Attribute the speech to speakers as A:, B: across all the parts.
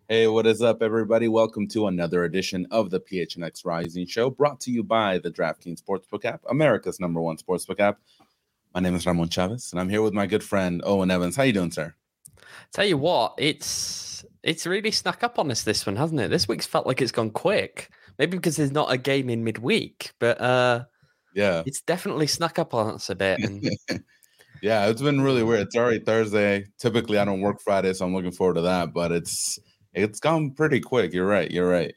A: Hey, what is up, everybody? Welcome to another edition of the PHNX Rising Show, brought to you by the DraftKings Sportsbook app, America's #1 sportsbook app. My name is Ramon Chavez, and I'm here with my good friend Owen Evans. How you doing, sir?
B: Tell you what, it's really snuck up on us, this one, hasn't it? This week's felt like it's gone quick. Maybe because there's not a game in midweek, but
A: Yeah,
B: it's definitely snuck up on us a bit. And
A: yeah, it's been really weird. It's already Thursday. Typically, I don't work Friday, so I'm looking forward to that. But it's gone pretty quick. You're right.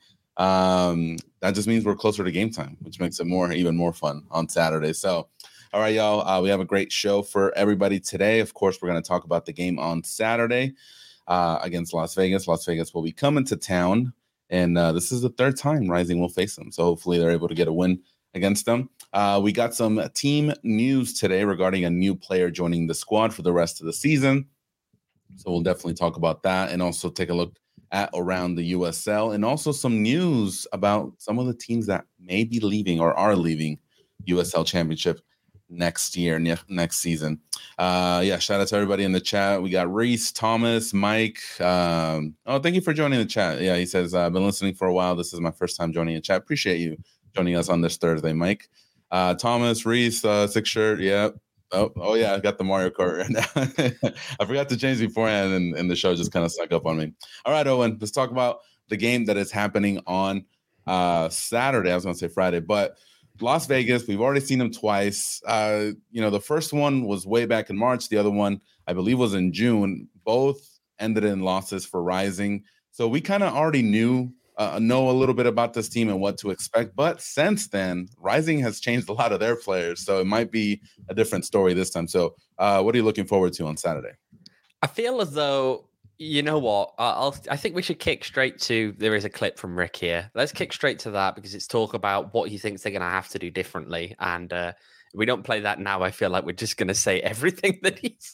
A: That just means we're closer to game time, which makes it even more fun on Saturday. So, all right, y'all. We have a great show for everybody today. Of course, we're going to talk about the game on Saturday against Las Vegas. Las Vegas will be coming to town, and this is the third time Rising will face them. So hopefully they're able to get a win against them. We got some team news today regarding a new player joining the squad for the rest of the season. So we'll definitely talk about that and also take a look at around the USL, and also some news about some of the teams that may be leaving or are leaving USL Championship next season. Shout out to everybody in the chat. We got Reese, Thomas, Mike. Thank you for joining the chat. Yeah, he says, I've been listening for a while. This is my first time joining the chat. Appreciate you joining us on this Thursday, Mike. Thomas, Reese, Six Shirt. Yeah. Oh yeah, I got the Mario Kart right now. I forgot to change beforehand, and the show just kind of stuck up on me. All right, Owen, let's talk about the game that is happening on Saturday. I was going to say Friday, but Las Vegas, we've already seen them twice. The first one was way back in March. The other one, I believe, was in June. Both ended in losses for Rising. So we kind of already know a little bit about this team and what to expect. But since then, Rising has changed a lot of their players. So it might be a different story this time. So what are you looking forward to on Saturday?
B: I feel as though, you know what, I think we should kick straight to, there is a clip from Rick here. Let's kick straight to that because it's talk about what he thinks they're going to have to do differently. And if we don't play that now, I feel like we're just going to say everything that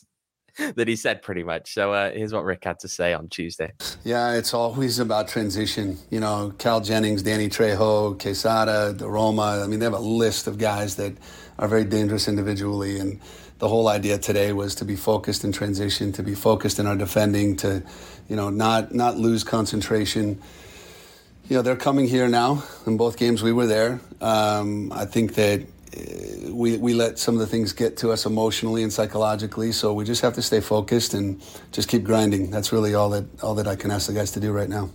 B: he said pretty much. So here's what Rick had to say on Tuesday.
C: Yeah, it's always about transition. You know, Cal Jennings, Danny Trejo, Quesada, DeRoma. I mean, they have a list of guys that are very dangerous individually. And the whole idea today was to be focused in transition, to be focused in our defending, to, not lose concentration. They're coming here now. In both games we were there. I think that we let some of the things get to us emotionally and psychologically, so we just have to stay focused and just keep grinding. That's really all that I can ask the guys to do right now.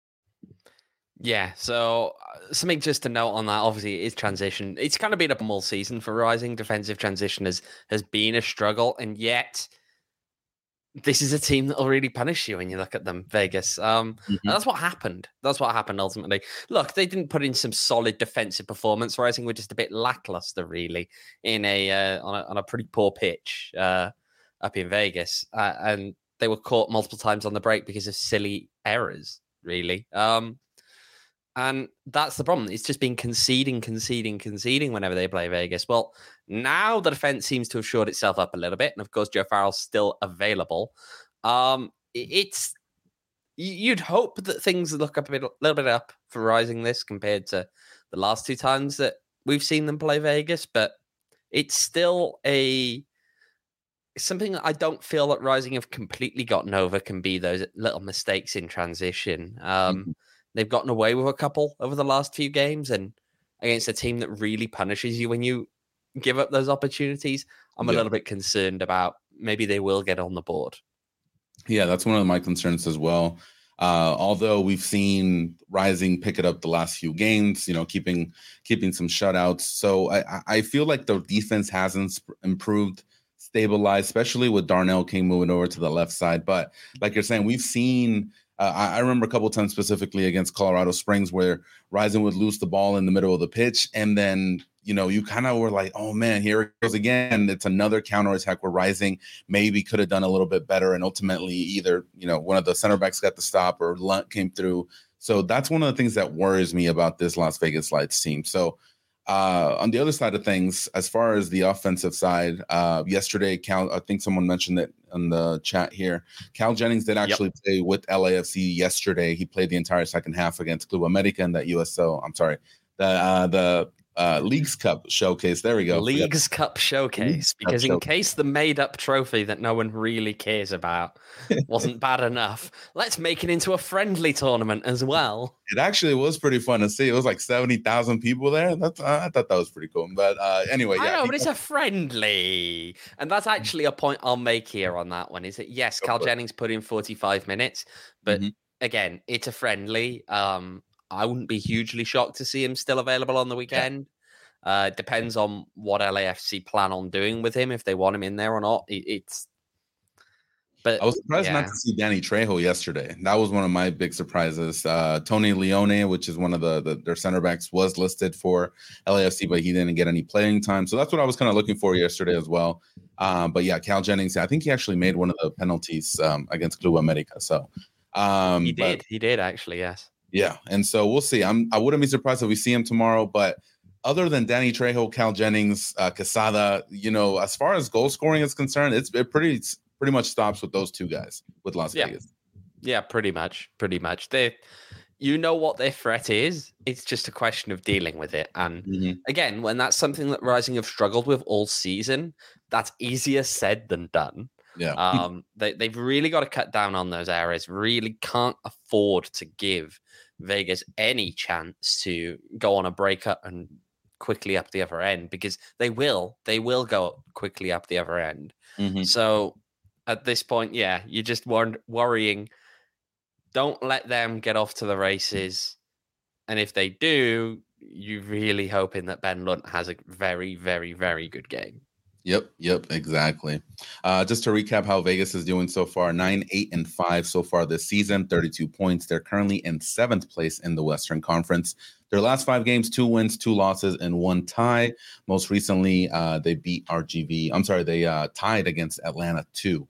B: Yeah, so something just to note on that, obviously, is transition. It's kind of been a all season for Rising. Defensive transition has been a struggle, and yet this is a team that will really punish you when you look at them, Vegas. And that's what happened. That's what happened ultimately. Look, they didn't put in some solid defensive performance. Rising were just a bit lackluster, really, in on a pretty poor pitch up in Vegas, and they were caught multiple times on the break because of silly errors, really. And that's the problem. It's just been conceding whenever they play Vegas. Well, now the defense seems to have shored itself up a little bit. And of course, Joe Farrell's still available. You'd hope that things look up a little bit up for Rising this compared to the last two times that we've seen them play Vegas. But it's still something that I don't feel that Rising have completely gotten over can be those little mistakes in transition. They've gotten away with a couple over the last few games, and against a team that really punishes you when you give up those opportunities, I'm a little bit concerned about maybe they will get on the board.
A: Yeah, that's one of my concerns as well. Although we've seen Rising pick it up the last few games, keeping some shutouts. So I feel like the defense hasn't improved, stabilized, especially with Darnell King moving over to the left side. But like you're saying, we've seen I remember a couple of times specifically against Colorado Springs where Rising would lose the ball in the middle of the pitch. And then, you kind of were like, oh, man, here it goes again. It's another counterattack where Rising maybe could have done a little bit better. And ultimately either, one of the center backs got the stop or Lunt came through. So that's one of the things that worries me about this Las Vegas Lights team. So on the other side of things, as far as the offensive side, yesterday, Cal, I think someone mentioned it in the chat here. Cal Jennings did actually play with LAFC yesterday. He played the entire second half against Club America in that USL. I'm sorry, the Leagues Cup Showcase. There we go.
B: Leagues Cup Showcase, because in case the made-up trophy that no one really cares about wasn't bad enough, let's make it into a friendly tournament as well.
A: It actually was pretty fun to see. It was like 70,000 people there. I thought that was pretty cool. But anyway,
B: I know, but it's a friendly. And that's actually a point I'll make here on that one, is that, yes, Cal Jennings put in 45 minutes, but again, it's a friendly. I wouldn't be hugely shocked to see him still available on the weekend. It depends on what LAFC plan on doing with him, if they want him in there or not. But
A: I was surprised not to see Danny Trejo yesterday. That was one of my big surprises. Tony Leone, which is one of their center backs, was listed for LAFC, but he didn't get any playing time. So that's what I was kind of looking for yesterday as well. But yeah, Cal Jennings, I think he actually made one of the penalties against Club America. So
B: he did actually, yes.
A: Yeah, and so we'll see. I wouldn't be surprised if we see him tomorrow. But other than Danny Trejo, Cal Jennings, Quesada, as far as goal scoring is concerned, it pretty much stops with those two guys with Las Vegas.
B: Yeah, pretty much. You know what their threat is. It's just a question of dealing with it. And again, when that's something that Rising have struggled with all season, that's easier said than done.
A: Yeah.
B: They've really got to cut down on those areas. Really can't afford to give Vegas any chance to go on a breakup and quickly up the other end, because they will go quickly up the other end. So at this point, you're just worrying. Don't let them get off to the races. And if they do, you're really hoping that Ben Lunt has a very, very, very good game.
A: Yep, exactly. Just to recap how Vegas is doing so far, 9-8-5 so far this season, 32 points. They're currently in 7th place in the Western Conference. Their last 5 games, 2 wins, 2 losses, and 1 tie. Most recently, they beat RGV. They tied against Atlanta 2.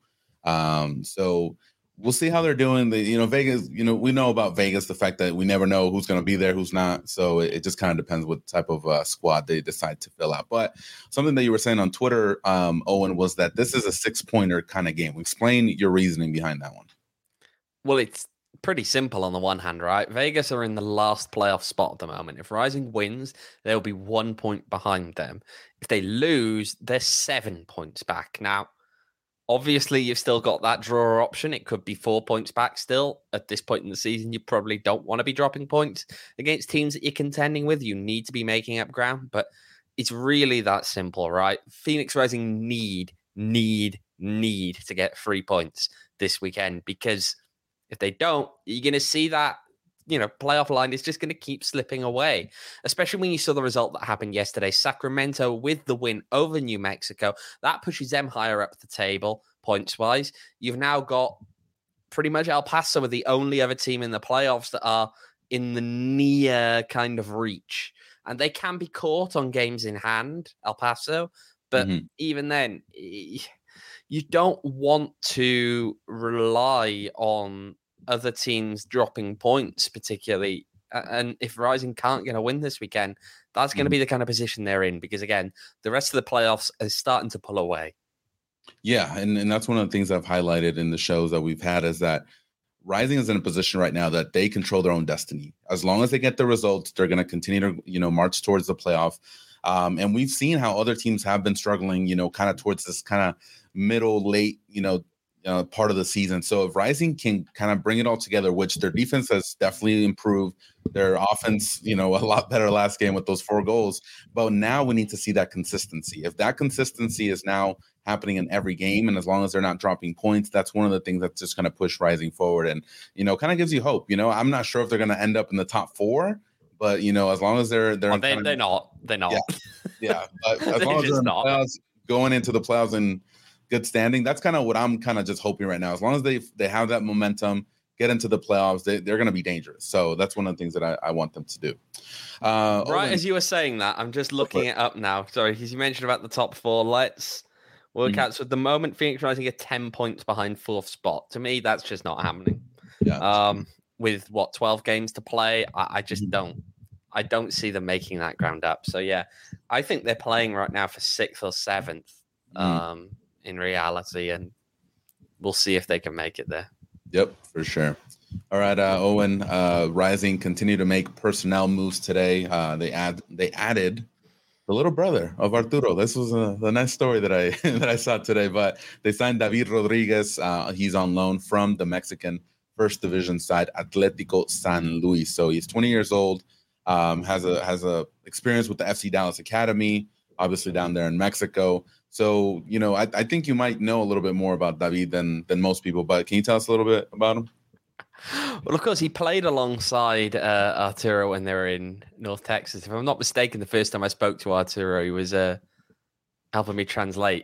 A: So we'll see how they're doing. Vegas, we know about Vegas, the fact that we never know who's going to be there, who's not. So it just kind of depends what type of squad they decide to fill out. But something that you were saying on Twitter, Owen, was that this is a 6-pointer kind of game. Explain your reasoning behind that one.
B: Well, it's pretty simple on the one hand, right? Vegas are in the last playoff spot at the moment. If Rising wins, they'll be 1 point behind them. If they lose, they're 7 points back. Now, obviously, you've still got that draw option. It could be 4 points back still. At this point in the season, you probably don't want to be dropping points against teams that you're contending with. You need to be making up ground, but it's really that simple, right? Phoenix Rising need to get 3 points this weekend, because if they don't, you're going to see that playoff line is just going to keep slipping away, especially when you saw the result that happened yesterday. Sacramento with the win over New Mexico, that pushes them higher up the table points-wise. You've now got pretty much El Paso are the only other team in the playoffs that are in the near kind of reach, and they can be caught on games in hand, El Paso, but even then, you don't want to rely on other teams dropping points, particularly. And if Rising can't get a win this weekend, that's going to be the kind of position they're in, because, again, the rest of the playoffs is starting to pull away.
A: Yeah, and that's one of the things I've highlighted in the shows that we've had, is that Rising is in a position right now that they control their own destiny. As long as they get the results, they're going to continue to, march towards the playoff. And we've seen how other teams have been struggling, kind of towards this kind of middle, late, part of the season. So if Rising can kind of bring it all together, which their defense has definitely improved, their offense, a lot better last game with those 4 goals. But now we need to see that consistency. If that consistency is now happening in every game, and as long as they're not dropping points, that's one of the things that's just going to push Rising forward, and kind of gives you hope. I'm not sure if they're going to end up in the top 4, but as long as they're
B: not.
A: Yeah, but as long as they're in the playoffs, going into the playoffs in good standing, that's kind of what I'm kind of just hoping right now. As long as they have that momentum, get into the playoffs, they're going to be dangerous. So that's one of the things that I want them to do.
B: As you were saying that, I'm just looking it up now. Sorry, because you mentioned about the top 4. Let's work out. So at the moment, Phoenix Rising are 10 points behind 4th spot. To me, that's just not happening.
A: Yeah.
B: With 12 games to play, I just don't. I don't see them making that ground up. So yeah, I think they're playing right now for 6th or 7th. In reality, and we'll see if they can make it there.
A: Yep, for sure. All right, Owen, Rising continue to make personnel moves today. They added the little brother of Arturo. This was the nice story that I that I saw today. But they signed David Rodriguez. He's on loan from the Mexican First Division side, Atlético San Luis. So he's 20 years old. Has a experience with the FC Dallas Academy, obviously down there in Mexico. So I think you might know a little bit more about David than most people. But can you tell us a little bit about him?
B: Well, of course, he played alongside Arturo when they were in North Texas. If I'm not mistaken, the first time I spoke to Arturo, he was helping me translate.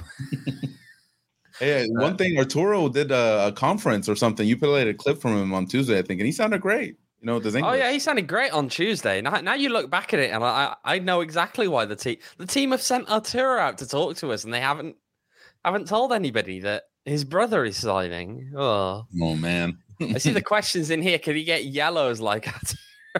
A: Hey, one thing, Arturo did a conference or something. You played a clip from him on Tuesday, I think, and he sounded great. With his English.
B: Oh yeah, he sounded great on Tuesday. Now you look back at it, and I know exactly why the team have sent Arturo out to talk to us, and they haven't told anybody that his brother is signing. Oh
A: man.
B: I see the questions in here. Can he get yellows like that?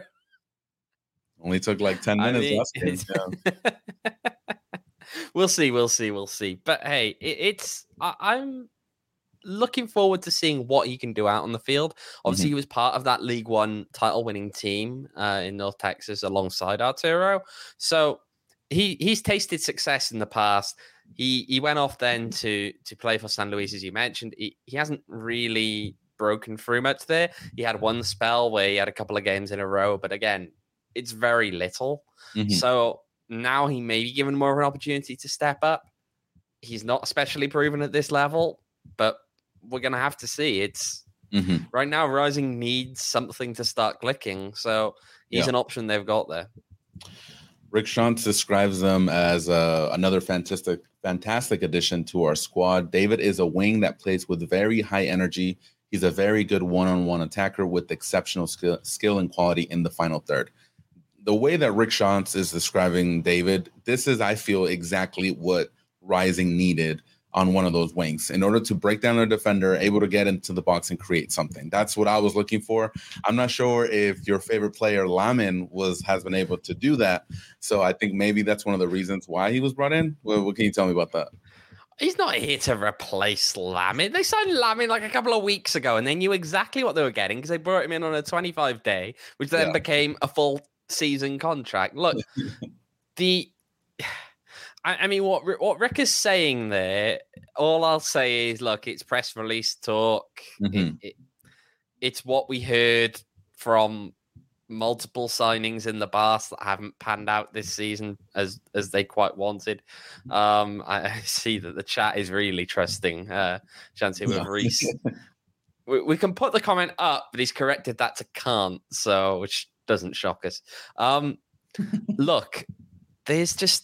A: Only took like 10 minutes last game. Yeah.
B: We'll see. But hey, I'm looking forward to seeing what he can do out on the field. Obviously, he was part of that League One title-winning team in North Texas alongside Arturo. So he's tasted success in the past. He went off then to play for San Luis, as you mentioned. He hasn't really broken through much there. He had one spell where he had a couple of games in a row, but again, it's very little. So now he may be given more of an opportunity to step up. He's not especially proven at this level, but we're going to have to see. It's right now, Rising needs something to start clicking. So he's an option they've got there.
A: Rick Schantz describes them as another fantastic addition to our squad. David is a wing that plays with very high energy. He's a very good one-on-one attacker with exceptional skill and quality in the final third. The way that Rick Schantz is describing David, this is, I feel, exactly what Rising needed on one of those wings in order to break down a defender, able to get into the box and create something. That's what I was looking for. I'm not sure if your favorite player, Lamin, has been able to do that. So I think maybe that's one of the reasons why he was brought in. What can you tell me about that?
B: He's not here to replace Lamin. They signed Lamin like a couple of weeks ago, and they knew exactly what they were getting because they brought him in on a 25-day, which then became a full season contract. Look, I mean, what Rick is saying there, all I'll say is, look, it's press release talk. It's what we heard from multiple signings in the past that haven't panned out this season as they quite wanted. I see that the chat is really trusting Shanti with Reese. We can put the comment up, but he's corrected that to can't, so which doesn't shock us. Look, there's just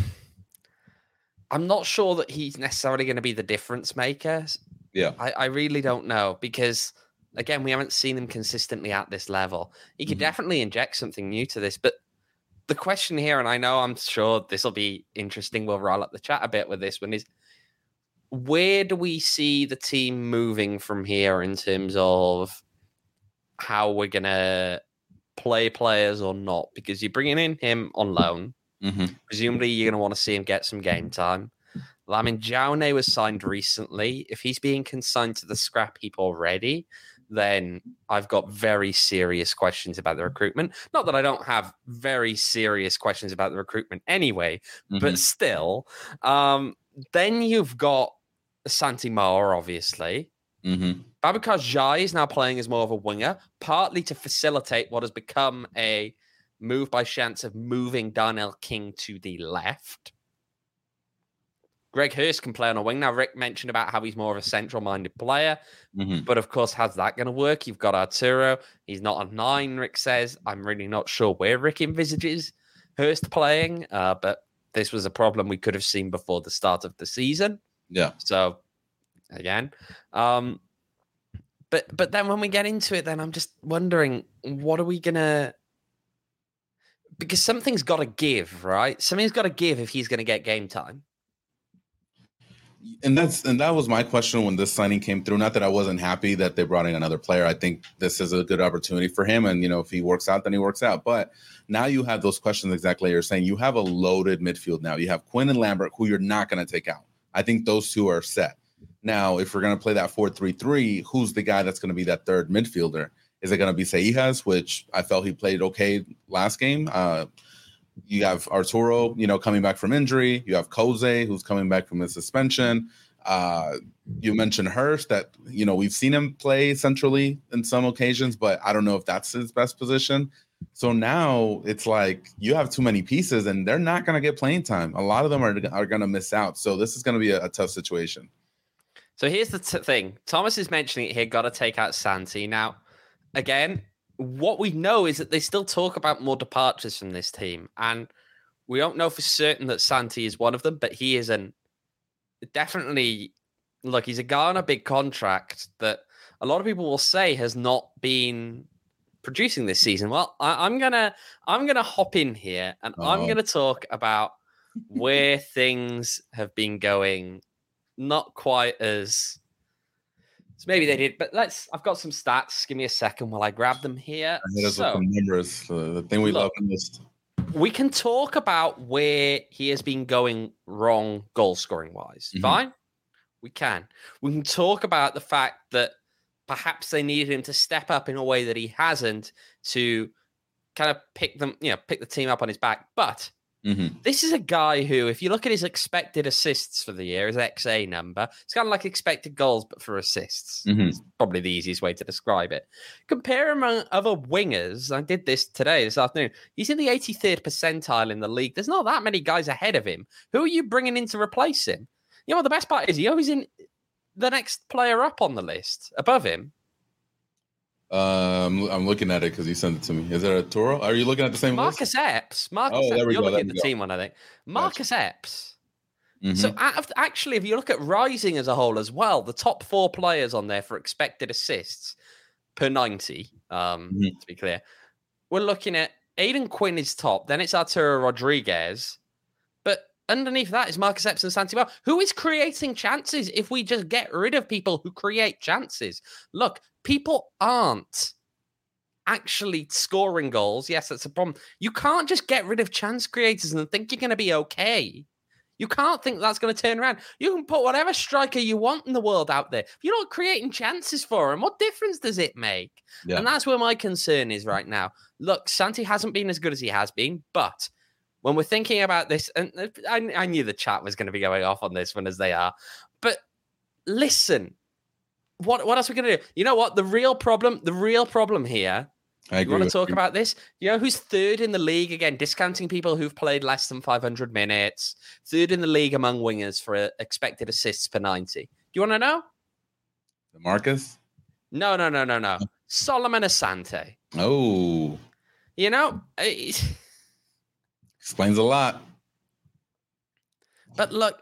B: I'm not sure that he's necessarily going to be the difference maker.
A: Yeah.
B: I really don't know because, again, we haven't seen him consistently at this level. He could definitely inject something new to this. But the question here, and I know I'm sure this will be interesting, we'll roll up the chat a bit with this one, is where do we see the team moving from here in terms of how we're going to play players or not? Because you're bringing in him on loan. Presumably, you're going to want to see him get some game time. Lamin Jaune was signed recently. If he's being consigned to the scrap heap already, then I've got very serious questions about the recruitment. Not that I don't have very serious questions about the recruitment anyway, but still. Then you've got Santi Moa, obviously. Babacar Jai is now playing as more of a winger, partly to facilitate what has become a move by Schantz of moving Darnell King to the left. Greg Hurst can play on a wing. Now, Rick mentioned about how he's more of a central-minded player, but of course, how's that going to work? You've got Arturo. He's not a 9, Rick says. I'm really not sure where Rick envisages Hurst playing, but this was a problem we could have seen before the start of the season.
A: Yeah.
B: So, again. But then when we get into it, then I'm just wondering, what are we going to... Because something's got to give, right? Something's got to give if he's going to get game time.
A: And that was my question when this signing came through. Not that I wasn't happy that they brought in another player. I think this is a good opportunity for him. And, if he works out, then he works out. But now you have those questions exactly like you're saying. You have a loaded midfield now. You have Quinn and Lambert, who you're not going to take out. I think those two are set. Now, if we're going to play that 4-3-3, who's the guy that's going to be that third midfielder? Is it going to be Seijas, which I felt he played okay last game? You have Arturo, coming back from injury. You have Jose, who's coming back from his suspension. You mentioned Hurst that, we've seen him play centrally in some occasions, but I don't know if that's his best position. So now it's like you have too many pieces and they're not going to get playing time. A lot of them are going to miss out. So this is going to be a tough situation.
B: So here's the thing. Thomas is mentioning it here, got to take out Santi. Now, again, what we know is that they still talk about more departures from this team. And we don't know for certain that Santi is one of them, but he is definitely, look, he's a guy on a big contract that a lot of people will say has not been producing this season. Well, I'm gonna hop in here and I'm gonna talk about where things have been going not quite as maybe they did, but I've got some stats. Give me a second while I grab them here.
A: So, numbers, the thing we love most.
B: We can talk about where he has been going wrong goal scoring wise. Mm-hmm. Fine. We can talk about the fact that perhaps they needed him to step up in a way that he hasn't to kind of pick the team up on his back. But this is a guy who, if you look at his expected assists for the year, his XA number, it's kind of like expected goals, but for assists. It's probably the easiest way to describe it. Compare him among other wingers. I did this this afternoon. He's in the 83rd percentile in the league. There's not that many guys ahead of him. Who are you bringing in to replace him? You know what the best part is? He always in the next player up on the list above him.
A: I'm looking at it because you sent it to me. Is it Arturo? Are you looking at the same
B: Marcus
A: list?
B: Epps. You're looking at the team one, I think. Marcus Epps. So actually, if you look at Rising as a whole as well, the top 4 players on there for expected assists per 90, to be clear, we're looking at Aiden Quinn is top, then it's Arturo Rodriguez, but underneath that is Marcus Epps and Santi Bell, who is creating chances if we just get rid of people who create chances. Look, people aren't actually scoring goals. Yes, that's a problem. You can't just get rid of chance creators and think you're going to be okay. You can't think that's going to turn around. You can put whatever striker you want in the world out there. If you're not creating chances for them, what difference does it make? Yeah. And that's where my concern is right now. Look, Santi hasn't been as good as he has been, but when we're thinking about this, and I knew the chat was going to be going off on this one as they are, but listen, what else are we going to do? You know what? The real problem here, you want to talk about this? You know who's third in the league? Again, discounting people who've played less than 500 minutes. Third in the league among wingers for expected assists per 90. Do you want to know?
A: Marcus?
B: No. Solomon Asante.
A: Oh.
B: You know,
A: explains a lot.
B: But look,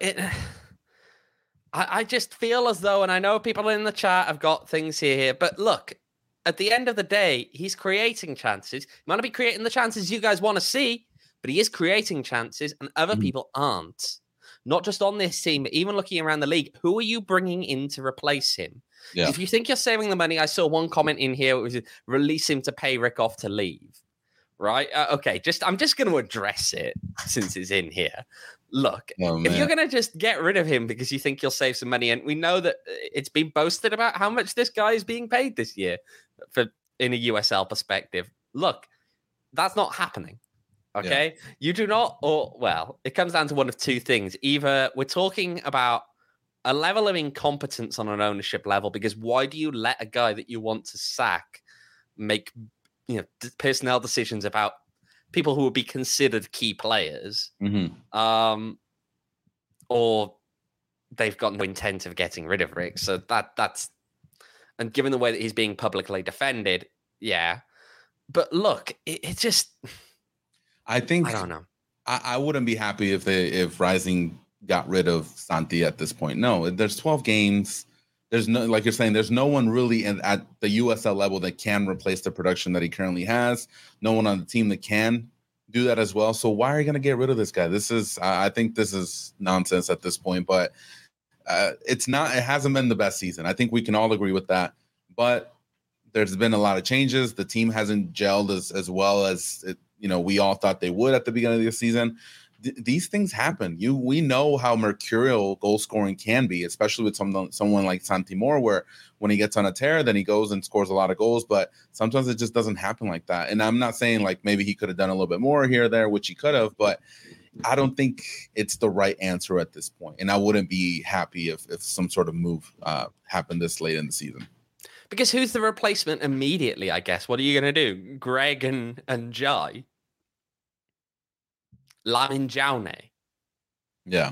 B: I just feel as though, and I know people in the chat have got things here, but look, at the end of the day, he's creating chances. He might not be creating the chances you guys want to see, but he is creating chances, and other people aren't. Not just on this team, but even looking around the league. Who are you bringing in to replace him? Yeah. If you think you're saving the money, I saw one comment in here, which was release him to pay Rick off to leave. Right? Okay, I'm just going to address it since it's in here. Look, if you're going to just get rid of him because you think you'll save some money, and we know that it's been boasted about how much this guy is being paid this year in a USL perspective. Look, that's not happening. Okay? Yeah. You do not, it comes down to one of two things. Either we're talking about a level of incompetence on an ownership level, because why do you let a guy that you want to sack make personnel decisions about people who would be considered key players, or they've got no intent of getting rid of Rick. So that's, and given the way that he's being publicly defended, yeah. But look, it just,
A: I think,
B: I don't know.
A: I wouldn't be happy if Rising got rid of Santi at this point. No, there's 12 games. There's no, like you're saying, there's no one really at the USL level that can replace the production that he currently has. No one on the team that can do that as well. So why are you going to get rid of this guy? I think this is nonsense at this point, but it hasn't been the best season. I think we can all agree with that, but there's been a lot of changes. The team hasn't gelled as well as we all thought they would at the beginning of the season. these things happen. We know how mercurial goal scoring can be, especially with someone like Santi Moore, where when he gets on a tear, then he goes and scores a lot of goals. But sometimes it just doesn't happen like that. And I'm not saying like maybe he could have done a little bit more here or there, which he could have, but I don't think it's the right answer at this point. And I wouldn't be happy if some sort of move happened this late in the season.
B: Because who's the replacement immediately, I guess? What are you going to do? Greg and Jai? Lamin Jaune?
A: Yeah.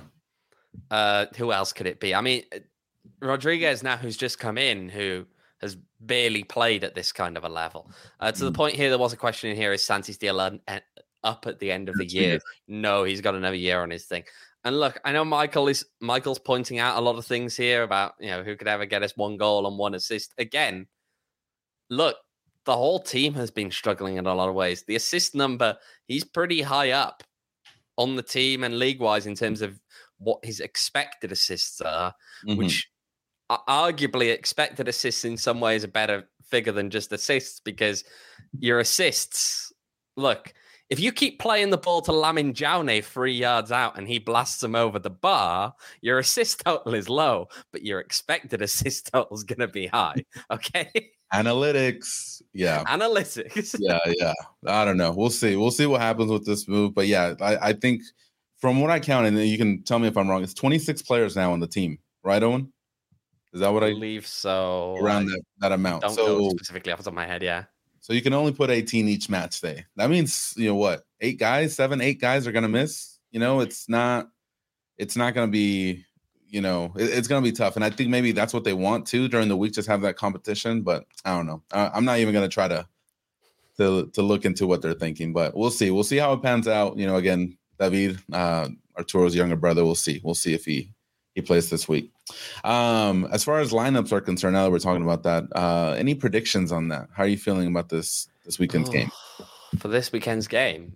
B: Who else could it be? I mean, Rodriguez now, who's just come in, who has barely played at this kind of a level. To the point here, there was a question in here, is Santi still up at the end of the year? No, he's got another year on his thing. And look, I know Michael's pointing out a lot of things here about, who could ever get us 1 goal and 1 assist. Again, look, the whole team has been struggling in a lot of ways. The assist number, he's pretty high up on the team and league-wise in terms of what his expected assists are, which arguably expected assists in some ways a better figure than just assists, because your assists, look, if you keep playing the ball to Lamin Jaune 3 yards out and he blasts them over the bar, your assist total is low, but your expected assist total is going to be high. Okay.
A: Analytics. Yeah.
B: Analytics.
A: Yeah. I don't know. We'll see. We'll see what happens with this move. But yeah, I think from what I counted, and you can tell me if I'm wrong, it's 26 players now on the team, right, Owen? Is that what I
B: believe so?
A: Around that amount.
B: Don't know specifically off the top of my head, yeah.
A: So you can only put 18 each match day. That means, what, 8 guys are going to miss? It's not going to be, it's going to be tough. And I think maybe that's what they want to during the week, just have that competition. But I don't know. I'm not even going to try to look into what they're thinking, but we'll see. We'll see how it pans out. Again, David, Arturo's younger brother, we'll see. We'll see if he plays this week. As far as lineups are concerned, now that we're talking about that, any predictions on that? How are you feeling about this weekend's game?
B: For this weekend's game,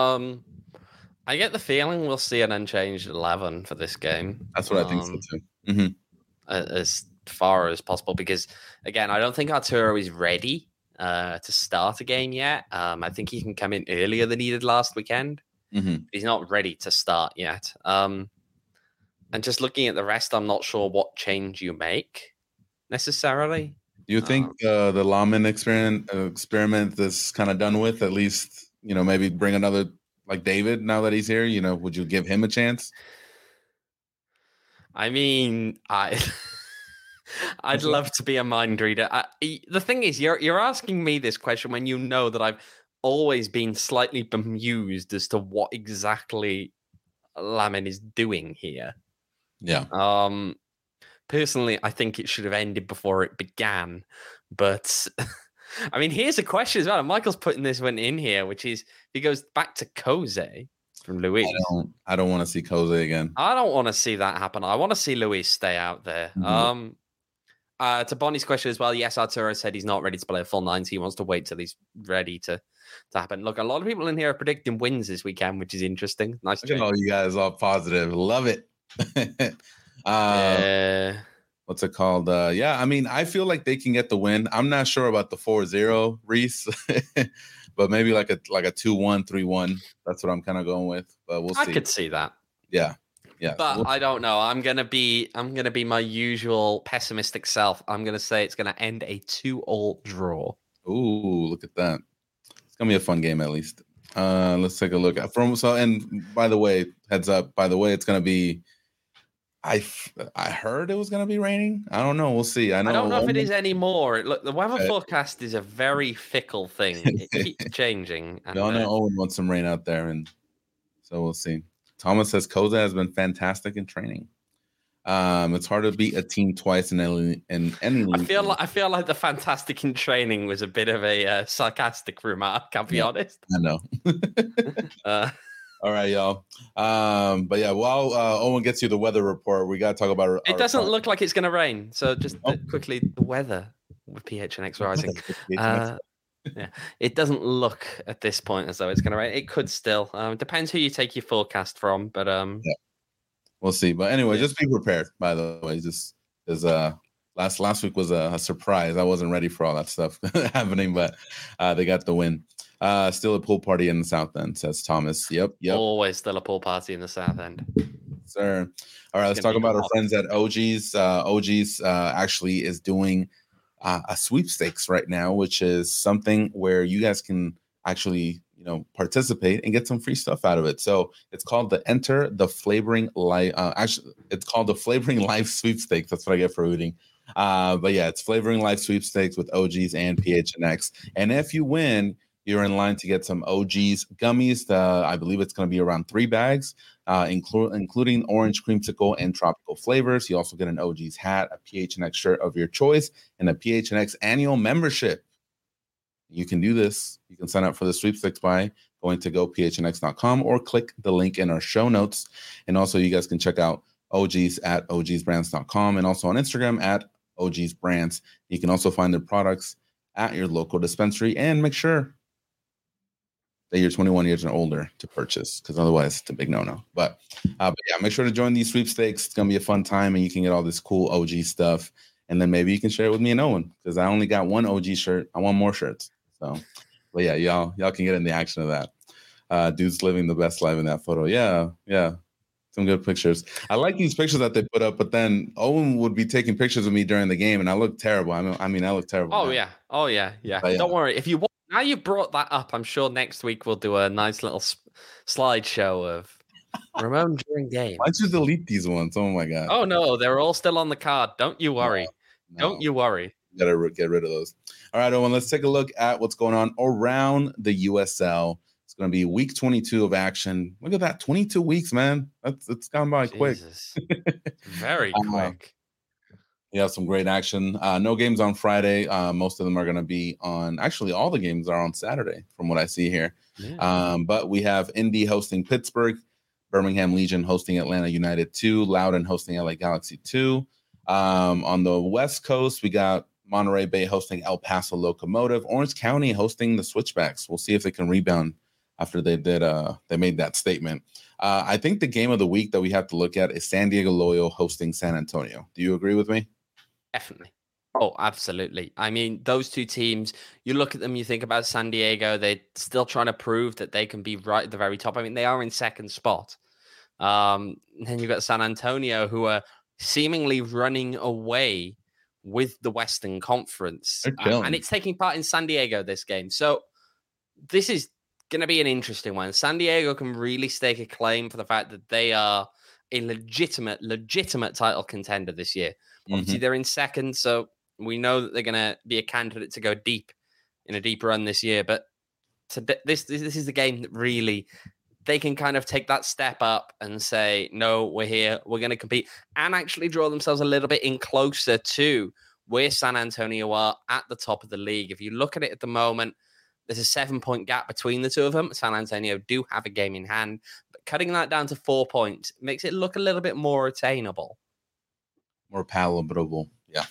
B: I get the feeling we'll see an unchanged 11 for this game.
A: That's what I think so too. Mm-hmm.
B: As far as possible, because again, I don't think Arturo is ready to start a game yet. I think he can come in earlier than he did last weekend.
A: Mm-hmm.
B: He's not ready to start yet. And just looking at the rest, I'm not sure what change you make necessarily.
A: Do you think the Lamin experiment is kind of done with? At least, maybe bring another like David now that he's here. Would you give him a chance?
B: I mean, I'd love to be a mind reader. The thing is, you're asking me this question when you know that I've always been slightly bemused as to what exactly Lamin is doing here.
A: Yeah.
B: Personally, I think it should have ended before it began. But I mean, here's a question as well. Michael's putting this one in here, which is, he goes back to Jose from Luis.
A: I don't want to see Jose again.
B: I don't want to see that happen. I want to see Luis stay out there. Mm-hmm. To Bonnie's question as well, yes, Arturo said he's not ready to play a full 90. He wants to wait till he's ready to happen. Look, a lot of people in here are predicting wins this weekend, which is interesting. Nice.
A: Look at all you guys all positive. Love it. What's it called? I mean, I feel like they can get the win. I'm not sure about the 4-0, Reese, but maybe like a 2-1, 3-1. That's what I'm kind of going with. But we'll see.
B: I could see that.
A: Yeah.
B: But I don't know. I'm gonna be my usual pessimistic self. I'm gonna say it's gonna end a 2-2 draw.
A: Ooh, look at that. It's gonna be a fun game at least. Let's take a look at and by the way, heads up, it's gonna be, I heard it was gonna be raining. I don't know. We'll see. I don't know
B: if it is anymore. Look, the weather forecast is a very fickle thing. It keeps changing.
A: And Owen wants some rain out there, and so we'll see. Thomas says Koza has been fantastic in training. It's hard to beat a team twice in any league.
B: I feel like the fantastic in training was a bit of a sarcastic remark. I'll be honest.
A: I know. All right, y'all. But yeah, while Owen gets you the weather report, we got to talk about
B: it. Doesn't look like it's going to rain. So just quickly, the weather with PHNX Rising. Yeah, it doesn't look at this point as though it's going to rain. It could still. Depends who you take your forecast from, but yeah.
A: We'll see. But anyway, just be prepared, by the way. Just as last week was a surprise. I wasn't ready for all that stuff happening, but they got the win. Still a pool party in the South End, says Thomas. Yep.
B: Always still a pool party in the South End.
A: Sir. All right, let's talk about our friends at OG's. OG's actually is doing a sweepstakes right now, which is something where you guys can actually, participate and get some free stuff out of it. So it's called the Enter the Flavoring Life. Actually, it's called the Flavoring Life Sweepstakes. That's what I get for reading. But yeah, it's Flavoring Life Sweepstakes with OG's and PHNX. And if you win, you're in line to get some OG's gummies. I believe it's going to be around 3 bags, including orange creamsicle and tropical flavors. You also get an OG's hat, a PHNX shirt of your choice, and a PHNX annual membership. You can do this. You can sign up for the sweepstakes by going to gophnx.com or click the link in our show notes. And also, you guys can check out OG's at ogsbrands.com and also on Instagram at ogsbrands. You can also find their products at your local dispensary and make sure that you're 21 years and older to purchase, because otherwise it's a big no-no. But yeah, make sure to join these sweepstakes. It's going to be a fun time, and you can get all this cool OG stuff. And then maybe you can share it with me and Owen, because I only got 1 OG shirt. I want more shirts. So, but yeah, y'all can get in the action of that. Dude's living the best life in that photo. Yeah. Some good pictures. I like these pictures that they put up, but then Owen would be taking pictures of me during the game, and I look terrible. I mean, I look terrible.
B: Oh, now. Yeah. But, don't worry. If you want, now you brought that up, I'm sure next week we'll do a nice little slideshow of Ramon during game.
A: Why'd you delete these ones? Oh, my God.
B: Oh, no, they're all still on the card. Don't you worry.
A: No.
B: Don't you worry.
A: Got to get rid of those. All right, Owen, let's take a look at what's going on around the USL. It's going to be week 22 of action. Look at that, 22 weeks, man. It's gone by quick.
B: Very quick.
A: You have some great action. No games on Friday. Most of them are going to be on. Actually, all the games are on Saturday, from what I see here. Yeah. But we have Indy hosting Pittsburgh, Birmingham Legion hosting Atlanta United 2, Loudoun hosting LA Galaxy 2. On the West Coast, we got Monterey Bay hosting El Paso Locomotive, Orange County hosting the Switchbacks. We'll see if they can rebound after they made that statement. I think the game of the week that we have to look at is San Diego Loyal hosting San Antonio. Do you agree with me?
B: Definitely. Oh, absolutely. I mean, those two teams, you look at them, you think about San Diego, they're still trying to prove that they can be right at the very top. I mean, they are in second spot. Then you've got San Antonio, who are seemingly running away with the Western Conference. And it's taking part in San Diego, this game. So this is going to be an interesting one. San Diego can really stake a claim for the fact that they are a legitimate title contender this year. Obviously, they're in second, so we know that they're going to be a candidate to go deep in a deep run this year. But this is the game that really they can kind of take that step up and say, no, we're here, we're going to compete, and actually draw themselves a little bit in closer to where San Antonio are at the top of the league. If you look at it at the moment, there's a 7-point gap between the two of them. San Antonio do have a game in hand, but cutting that down to 4 points makes it look a little bit more attainable.
A: More palatable. Yeah.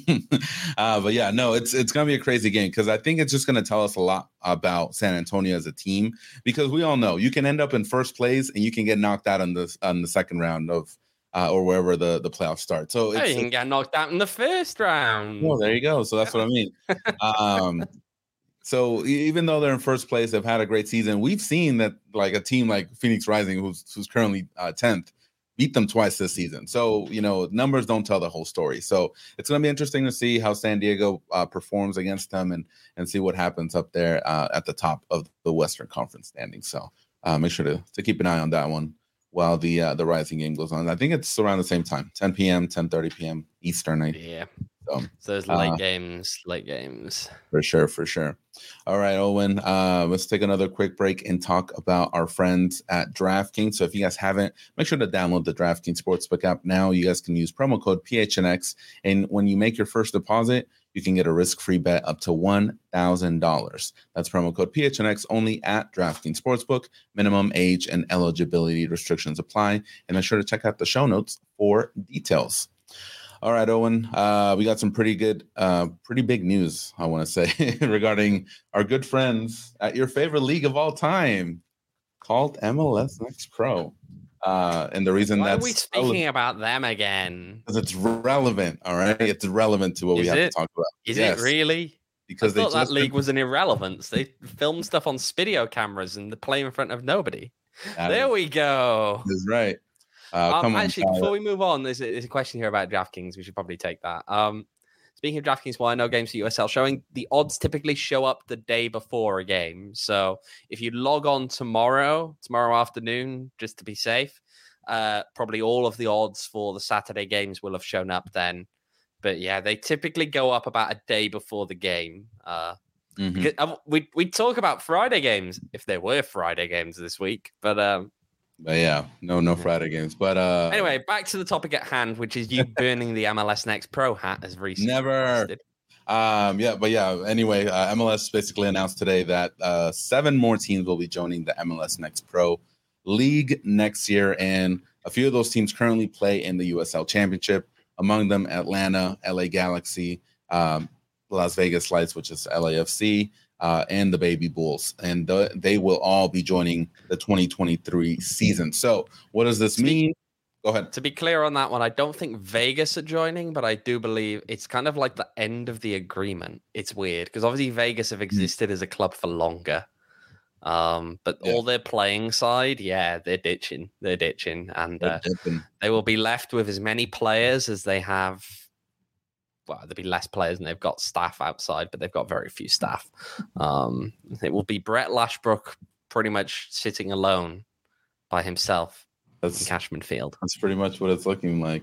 A: But yeah, no, it's going to be a crazy game, because I think it's just going to tell us a lot about San Antonio as a team, because we all know you can end up in first place and you can get knocked out on the second round of or wherever the playoffs start. So
B: you can get knocked out in the first round.
A: Well, there you go. So that's what I mean. So even though they're in first place, they've had a great season. We've seen that like a team like Phoenix Rising, who's currently 10th, beat them twice this season. So, numbers don't tell the whole story. So it's going to be interesting to see how San Diego performs against them and see what happens up there at the top of the Western Conference standing. So make sure to keep an eye on that one while the Rising game goes on. I think it's around the same time, 10 p.m., 10:30 p.m. Eastern.
B: Yeah. So those late games. For
A: sure. All right, Owen, let's take another quick break and talk about our friends at DraftKings. So if you guys haven't, make sure to download the DraftKings Sportsbook app now. You guys can use promo code PHNX. And when you make your first deposit, you can get a risk-free bet up to $1,000. That's promo code PHNX only at DraftKings Sportsbook. Minimum age and eligibility restrictions apply. And make sure to check out the show notes for details. All right, Owen, we got some pretty big news, I want to say, regarding our good friends at your favorite league of all time called MLS Next Pro. And the reason
B: Why are we speaking about them again?
A: Because it's relevant, all right? It's relevant to what we have to talk about.
B: Is it really?
A: because
B: I thought that league was an irrelevance. They film stuff on video cameras and they play in front of nobody. There we go.
A: That's right. Come on.
B: Actually, before we move on, there's a question here about DraftKings. We should probably take that. Speaking of DraftKings, well, I know games for USL showing, the odds typically show up the day before a game. So if you log on tomorrow afternoon, just to be safe, probably all of the odds for the Saturday games will have shown up then. But yeah, they typically go up about a day before the game. Because we talk about Friday games if there were Friday games this week, but
A: yeah, no Friday games. But
B: anyway, back to the topic at hand, which is you burning the MLS Next Pro hat as recently.
A: Never. Anyway, MLS basically announced today that 7 more teams will be joining the MLS Next Pro League next year, and a few of those teams currently play in the USL Championship. Among them, Atlanta, LA Galaxy, Las Vegas Lights, which is LAFC, and the Baby Bulls. And they will all be joining the 2023 season. So what does this mean? Go ahead.
B: To be clear on that one, I don't think Vegas are joining, but I do believe it's kind of like the end of the agreement. It's weird because obviously Vegas have existed as a club for longer. But all their playing side, they're ditching. And they will be left with as many players as they have. Well, there'll be less players and they've got staff outside, but they've got very few staff. It will be Brett Lashbrook pretty much sitting alone by himself in Cashman Field.
A: That's pretty much what it's looking like.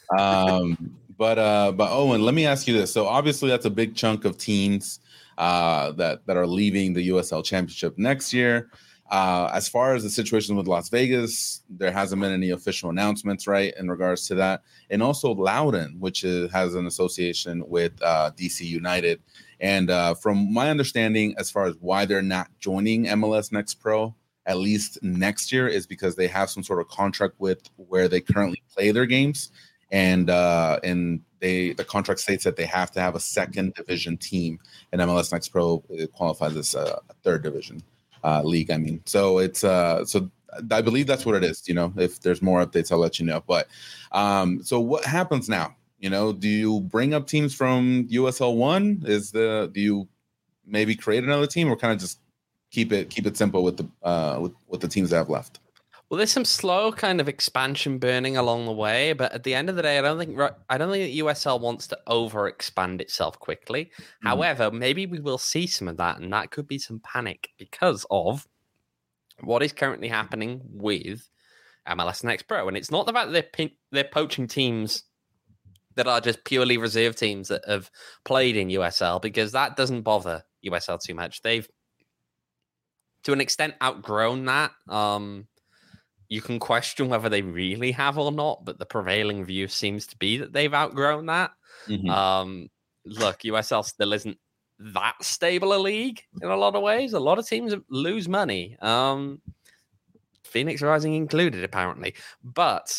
A: But Owen, let me ask you this. So obviously that's a big chunk of teams that are leaving the USL Championship next year. As far as the situation with Las Vegas, there hasn't been any official announcements, right, in regards to that. And also Loudoun, which has an association with DC United. And from my understanding, as far as why they're not joining MLS Next Pro, at least next year, is because they have some sort of contract with where they currently play their games. And the contract states that they have to have a second division team, and MLS Next Pro qualifies as a third division league. I mean, so it's so I believe that's what it is. You know, if there's more updates, I'll let you know. But so what happens now? You know, do you bring up teams from USL 1? Do you maybe create another team, or kind of just keep it simple with the teams that have left?
B: Well, there's some slow kind of expansion burning along the way, but at the end of the day, I don't think that USL wants to over expand itself quickly. Mm-hmm. However, maybe we will see some of that, and that could be some panic because of what is currently happening with MLS Next Pro. And it's not the fact that they're poaching teams that are just purely reserve teams that have played in USL, because that doesn't bother USL too much. They've, to an extent, outgrown that. You can question whether they really have or not, but the prevailing view seems to be that they've outgrown that. Mm-hmm. Look, USL still isn't that stable a league in a lot of ways. A lot of teams lose money, Phoenix Rising included, apparently. But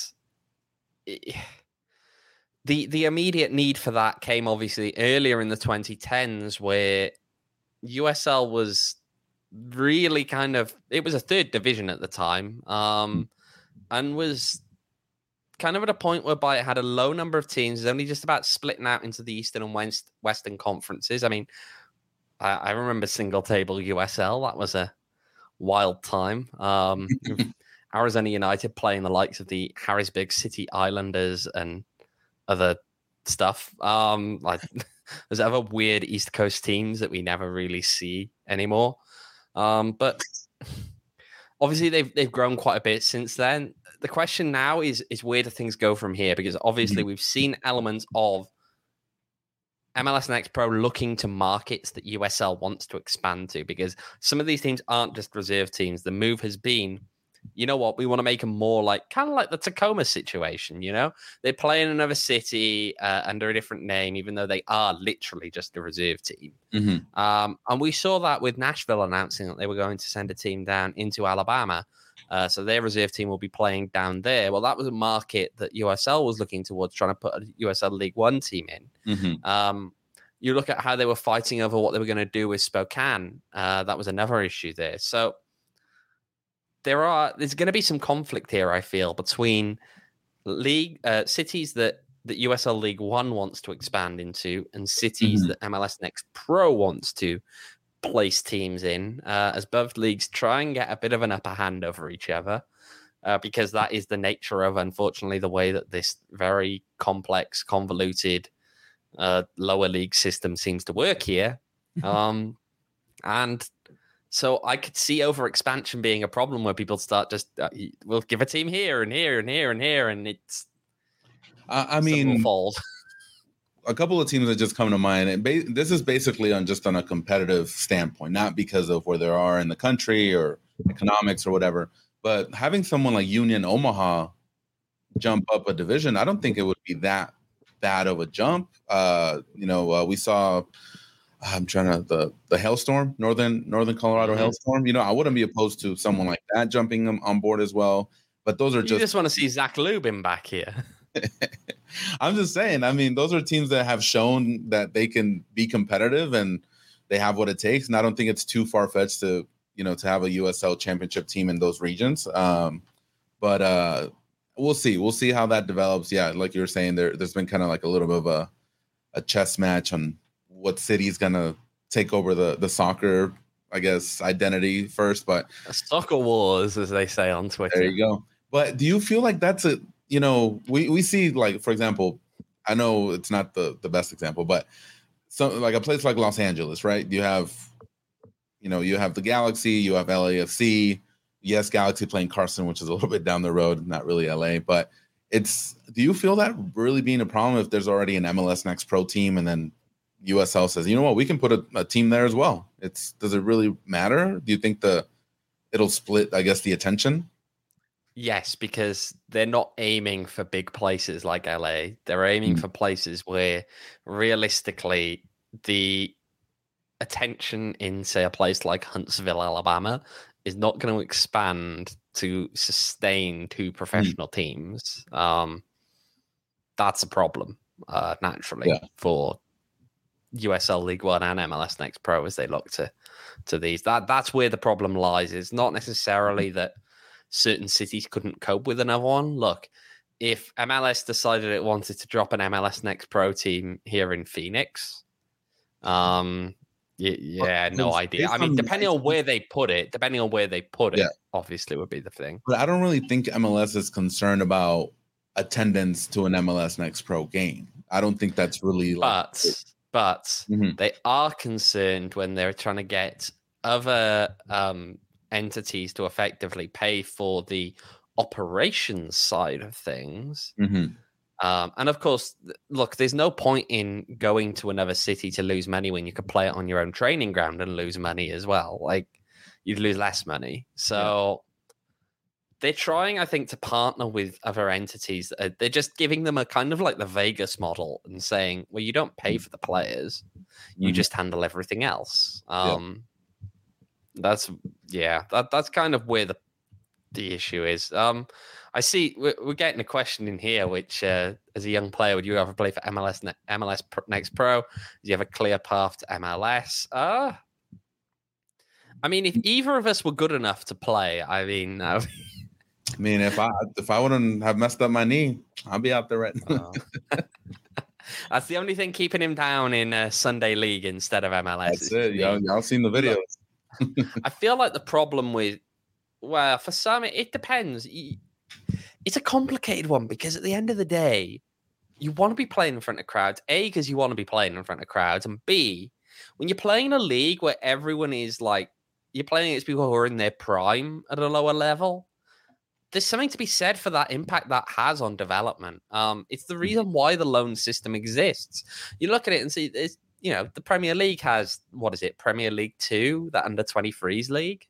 B: the immediate need for that came obviously earlier in the 2010s, where USL was really kind of, it was a third division at the time, and was kind of at a point whereby it had a low number of teams. It's only just about splitting out into the Eastern and Western conferences. I mean, I remember single table USL. That was a wild time. Arizona United playing the likes of the Harrisburg City Islanders and other stuff. Like there's other weird East Coast teams that we never really see anymore. But obviously they've grown quite a bit since then. The question now is where do things go from here? Because obviously we've seen elements of MLS Next Pro looking to markets that USL wants to expand to, because some of these teams aren't just reserve teams. The move has been, you know what, we want to make them more like, kind of like the Tacoma situation, you know? They play in another city under a different name, even though they are literally just a reserve team. Mm-hmm. And we saw that with Nashville announcing that they were going to send a team down into Alabama. So their reserve team will be playing down there. Well, that was a market that USL was looking towards, trying to put a USL League One team in. Mm-hmm. You look at how they were fighting over what they were going to do with Spokane. That was another issue there. So there's going to be some conflict here, I feel, between league cities that that USL League One wants to expand into, and cities that MLS Next Pro wants to place teams in, as both leagues try and get a bit of an upper hand over each other, because that is the nature of, unfortunately, the way that this very complex, convoluted lower league system seems to work here. And so I could see overexpansion being a problem where people start just, we'll give a team here and here and here and here, and it's,
A: I mean,
B: fold.
A: A couple of teams that just come to mind, and this is basically on a competitive standpoint, not because of where they are in the country or economics or whatever, but having someone like Union Omaha jump up a division, I don't think it would be that bad of a jump. We saw, the Hailstorm, Northern Colorado Hailstorm. I wouldn't be opposed to someone like that jumping on board as well. But those are
B: you just want to see Zach Lubin back here.
A: I'm just saying. I mean, those are teams that have shown that they can be competitive and they have what it takes. And I don't think it's too far fetched to have a USL championship team in those regions. But we'll see. We'll see how that develops. Yeah, like you were saying, there's been kind of like a little bit of a chess match on what city's gonna take over the soccer, I guess, identity first. But
B: soccer wars, as they say on Twitter.
A: There you go. But do you feel like that's we see, like, for example, I know it's not the best example, but like a place like Los Angeles, right? You have the Galaxy, you have LAFC. Yes, Galaxy playing Carson, which is a little bit down the road, not really LA, but do you feel that really being a problem if there's already an MLS Next Pro team and then USL says, you know what, we can put a team there as well? Does it really matter? Do you think it'll split, I guess, the attention?
B: Yes, because they're not aiming for big places like LA. They're aiming for places where realistically the attention in, say, a place like Huntsville, Alabama, is not going to expand to sustain two professional teams. That's a problem, naturally, for USL League One and MLS Next Pro as they look to these. That's where the problem lies. It's not necessarily that certain cities couldn't cope with another one. Look, if MLS decided it wanted to drop an MLS Next Pro team here in Phoenix, no idea. I mean, depending on where they put it, obviously would be the thing.
A: But I don't really think MLS is concerned about attendance to an MLS Next Pro game. I don't think that's really
B: But they are concerned when they're trying to get other entities to effectively pay for the operations side of things. And of course, look, there's no point in going to another city to lose money when you could play it on your own training ground and lose money as well. Like, you'd lose less money. So they're trying, I think, to partner with other entities. They're just giving them a kind of like the Vegas model and saying, well, you don't pay for the players. You just handle everything else. That's kind of where the issue is. I see we're getting a question in here, which as a young player, would you ever play for MLS Next Pro? Do you have a clear path to MLS? I mean, if either of us were good enough to play, I mean,
A: if I wouldn't have messed up my knee, I'll be out there right now.
B: That's the only thing keeping him down in Sunday League instead of MLS.
A: That's it. Y'all seen the videos.
B: I feel like the problem for some, it depends. It's a complicated one because at the end of the day, you want to be playing in front of crowds. A, because you want to be playing in front of crowds. And B, when you're playing in a league where everyone is like, you're playing against people who are in their prime at a lower level, there's something to be said for that impact that has on development. It's the reason why the loan system exists. You look at it and see, the Premier League has, Premier League 2, the under-23s league?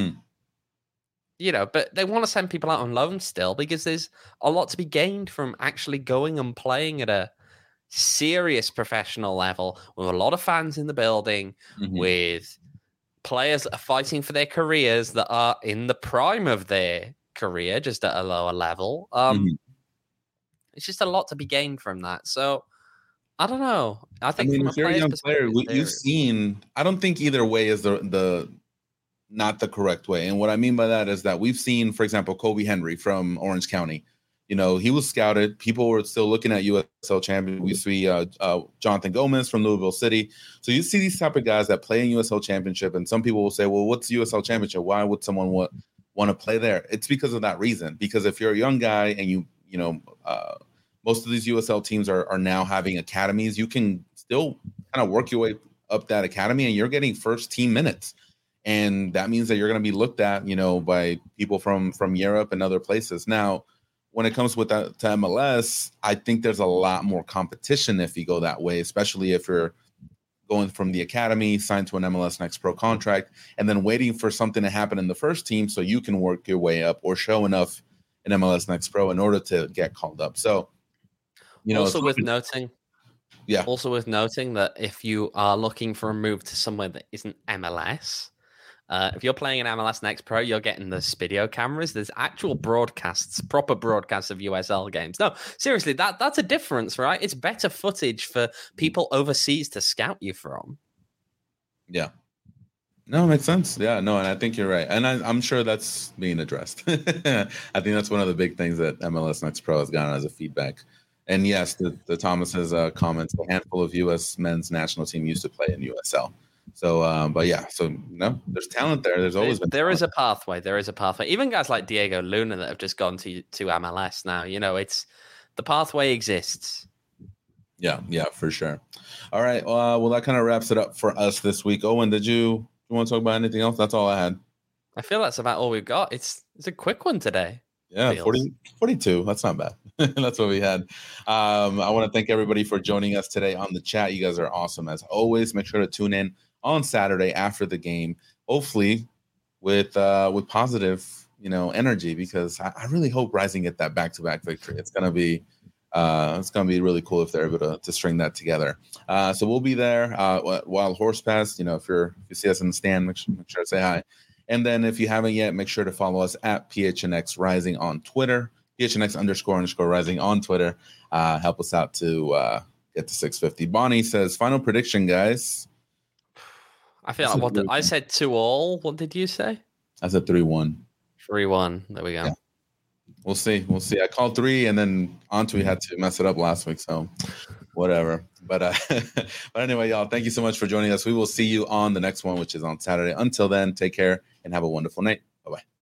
B: But they want to send people out on loan still because there's a lot to be gained from actually going and playing at a serious professional level with a lot of fans in the building, with players that are fighting for their careers that are in the prime of their career, just at a lower level. It's just a lot to be gained from that. So I don't know. I think
A: if you're a young player, you've seen. I don't think either way is the not the correct way. And what I mean by that is that we've seen, for example, Kobe Henry from Orange County. he was scouted. People were still looking at USL champion. We see Jonathan Gomez from Louisville City. So you see these type of guys that play in USL championship, and some people will say, well, what's USL championship? Why would someone want to play there? It's because of that reason. Because if you're a young guy and most of these USL teams are now having academies, you can still kind of work your way up that academy, and you're getting first team minutes. And that means that you're going to be looked at, by people from Europe and other places. Now, when it comes with that to MLS, I think there's a lot more competition if you go that way, especially if you're going from the academy, signed to an MLS Next Pro contract, and then waiting for something to happen in the first team so you can work your way up or show enough in MLS Next Pro in order to get called up. So,
B: also worth noting that if you are looking for a move to somewhere that isn't MLS, if you're playing an MLS Next Pro, you're getting the Spidio cameras. There's actual proper broadcasts of USL games. No, seriously, that's a difference, right? It's better footage for people overseas to scout you from.
A: Yeah. No, it makes sense. Yeah, no, and I think you're right. And I'm sure that's being addressed. I think that's one of the big things that MLS Next Pro has gotten as a feedback. And yes, the Thomas's comments, a handful of U.S. men's national team used to play in USL. So, but yeah, there's talent there. There's always been.
B: There is a pathway. There is a pathway. Even guys like Diego Luna that have just gone to MLS now. It's the pathway exists.
A: Yeah, for sure. All right. Well, that kind of wraps it up for us this week. Owen, did you want to talk about anything else? That's all I had.
B: I feel that's about all we've got. It's a quick one today.
A: Yeah, 42. That's not bad. That's what we had. I want to thank everybody for joining us today on the chat. You guys are awesome as always. Make sure to tune in on Saturday after the game, hopefully with positive, energy, because I really hope Rising get that back-to-back victory. It's gonna be really cool if they're able to string that together. So we'll be there while Horse Pass. If you see us in the stand, make sure to say hi. And then if you haven't yet, make sure to follow us at PHNX Rising on Twitter, PHNX__Rising on Twitter. Help us out to get to 650. Bonnie says, final prediction, guys.
B: I feel like I said 2-2. What did you say?
A: I said 3-1.
B: 3-1. There we go.
A: Yeah. We'll see. I called 3, and then Antwi had to mess it up last week, so whatever. But anyway, y'all, thank you so much for joining us. We will see you on the next one, which is on Saturday. Until then, take care and have a wonderful night. Bye-bye.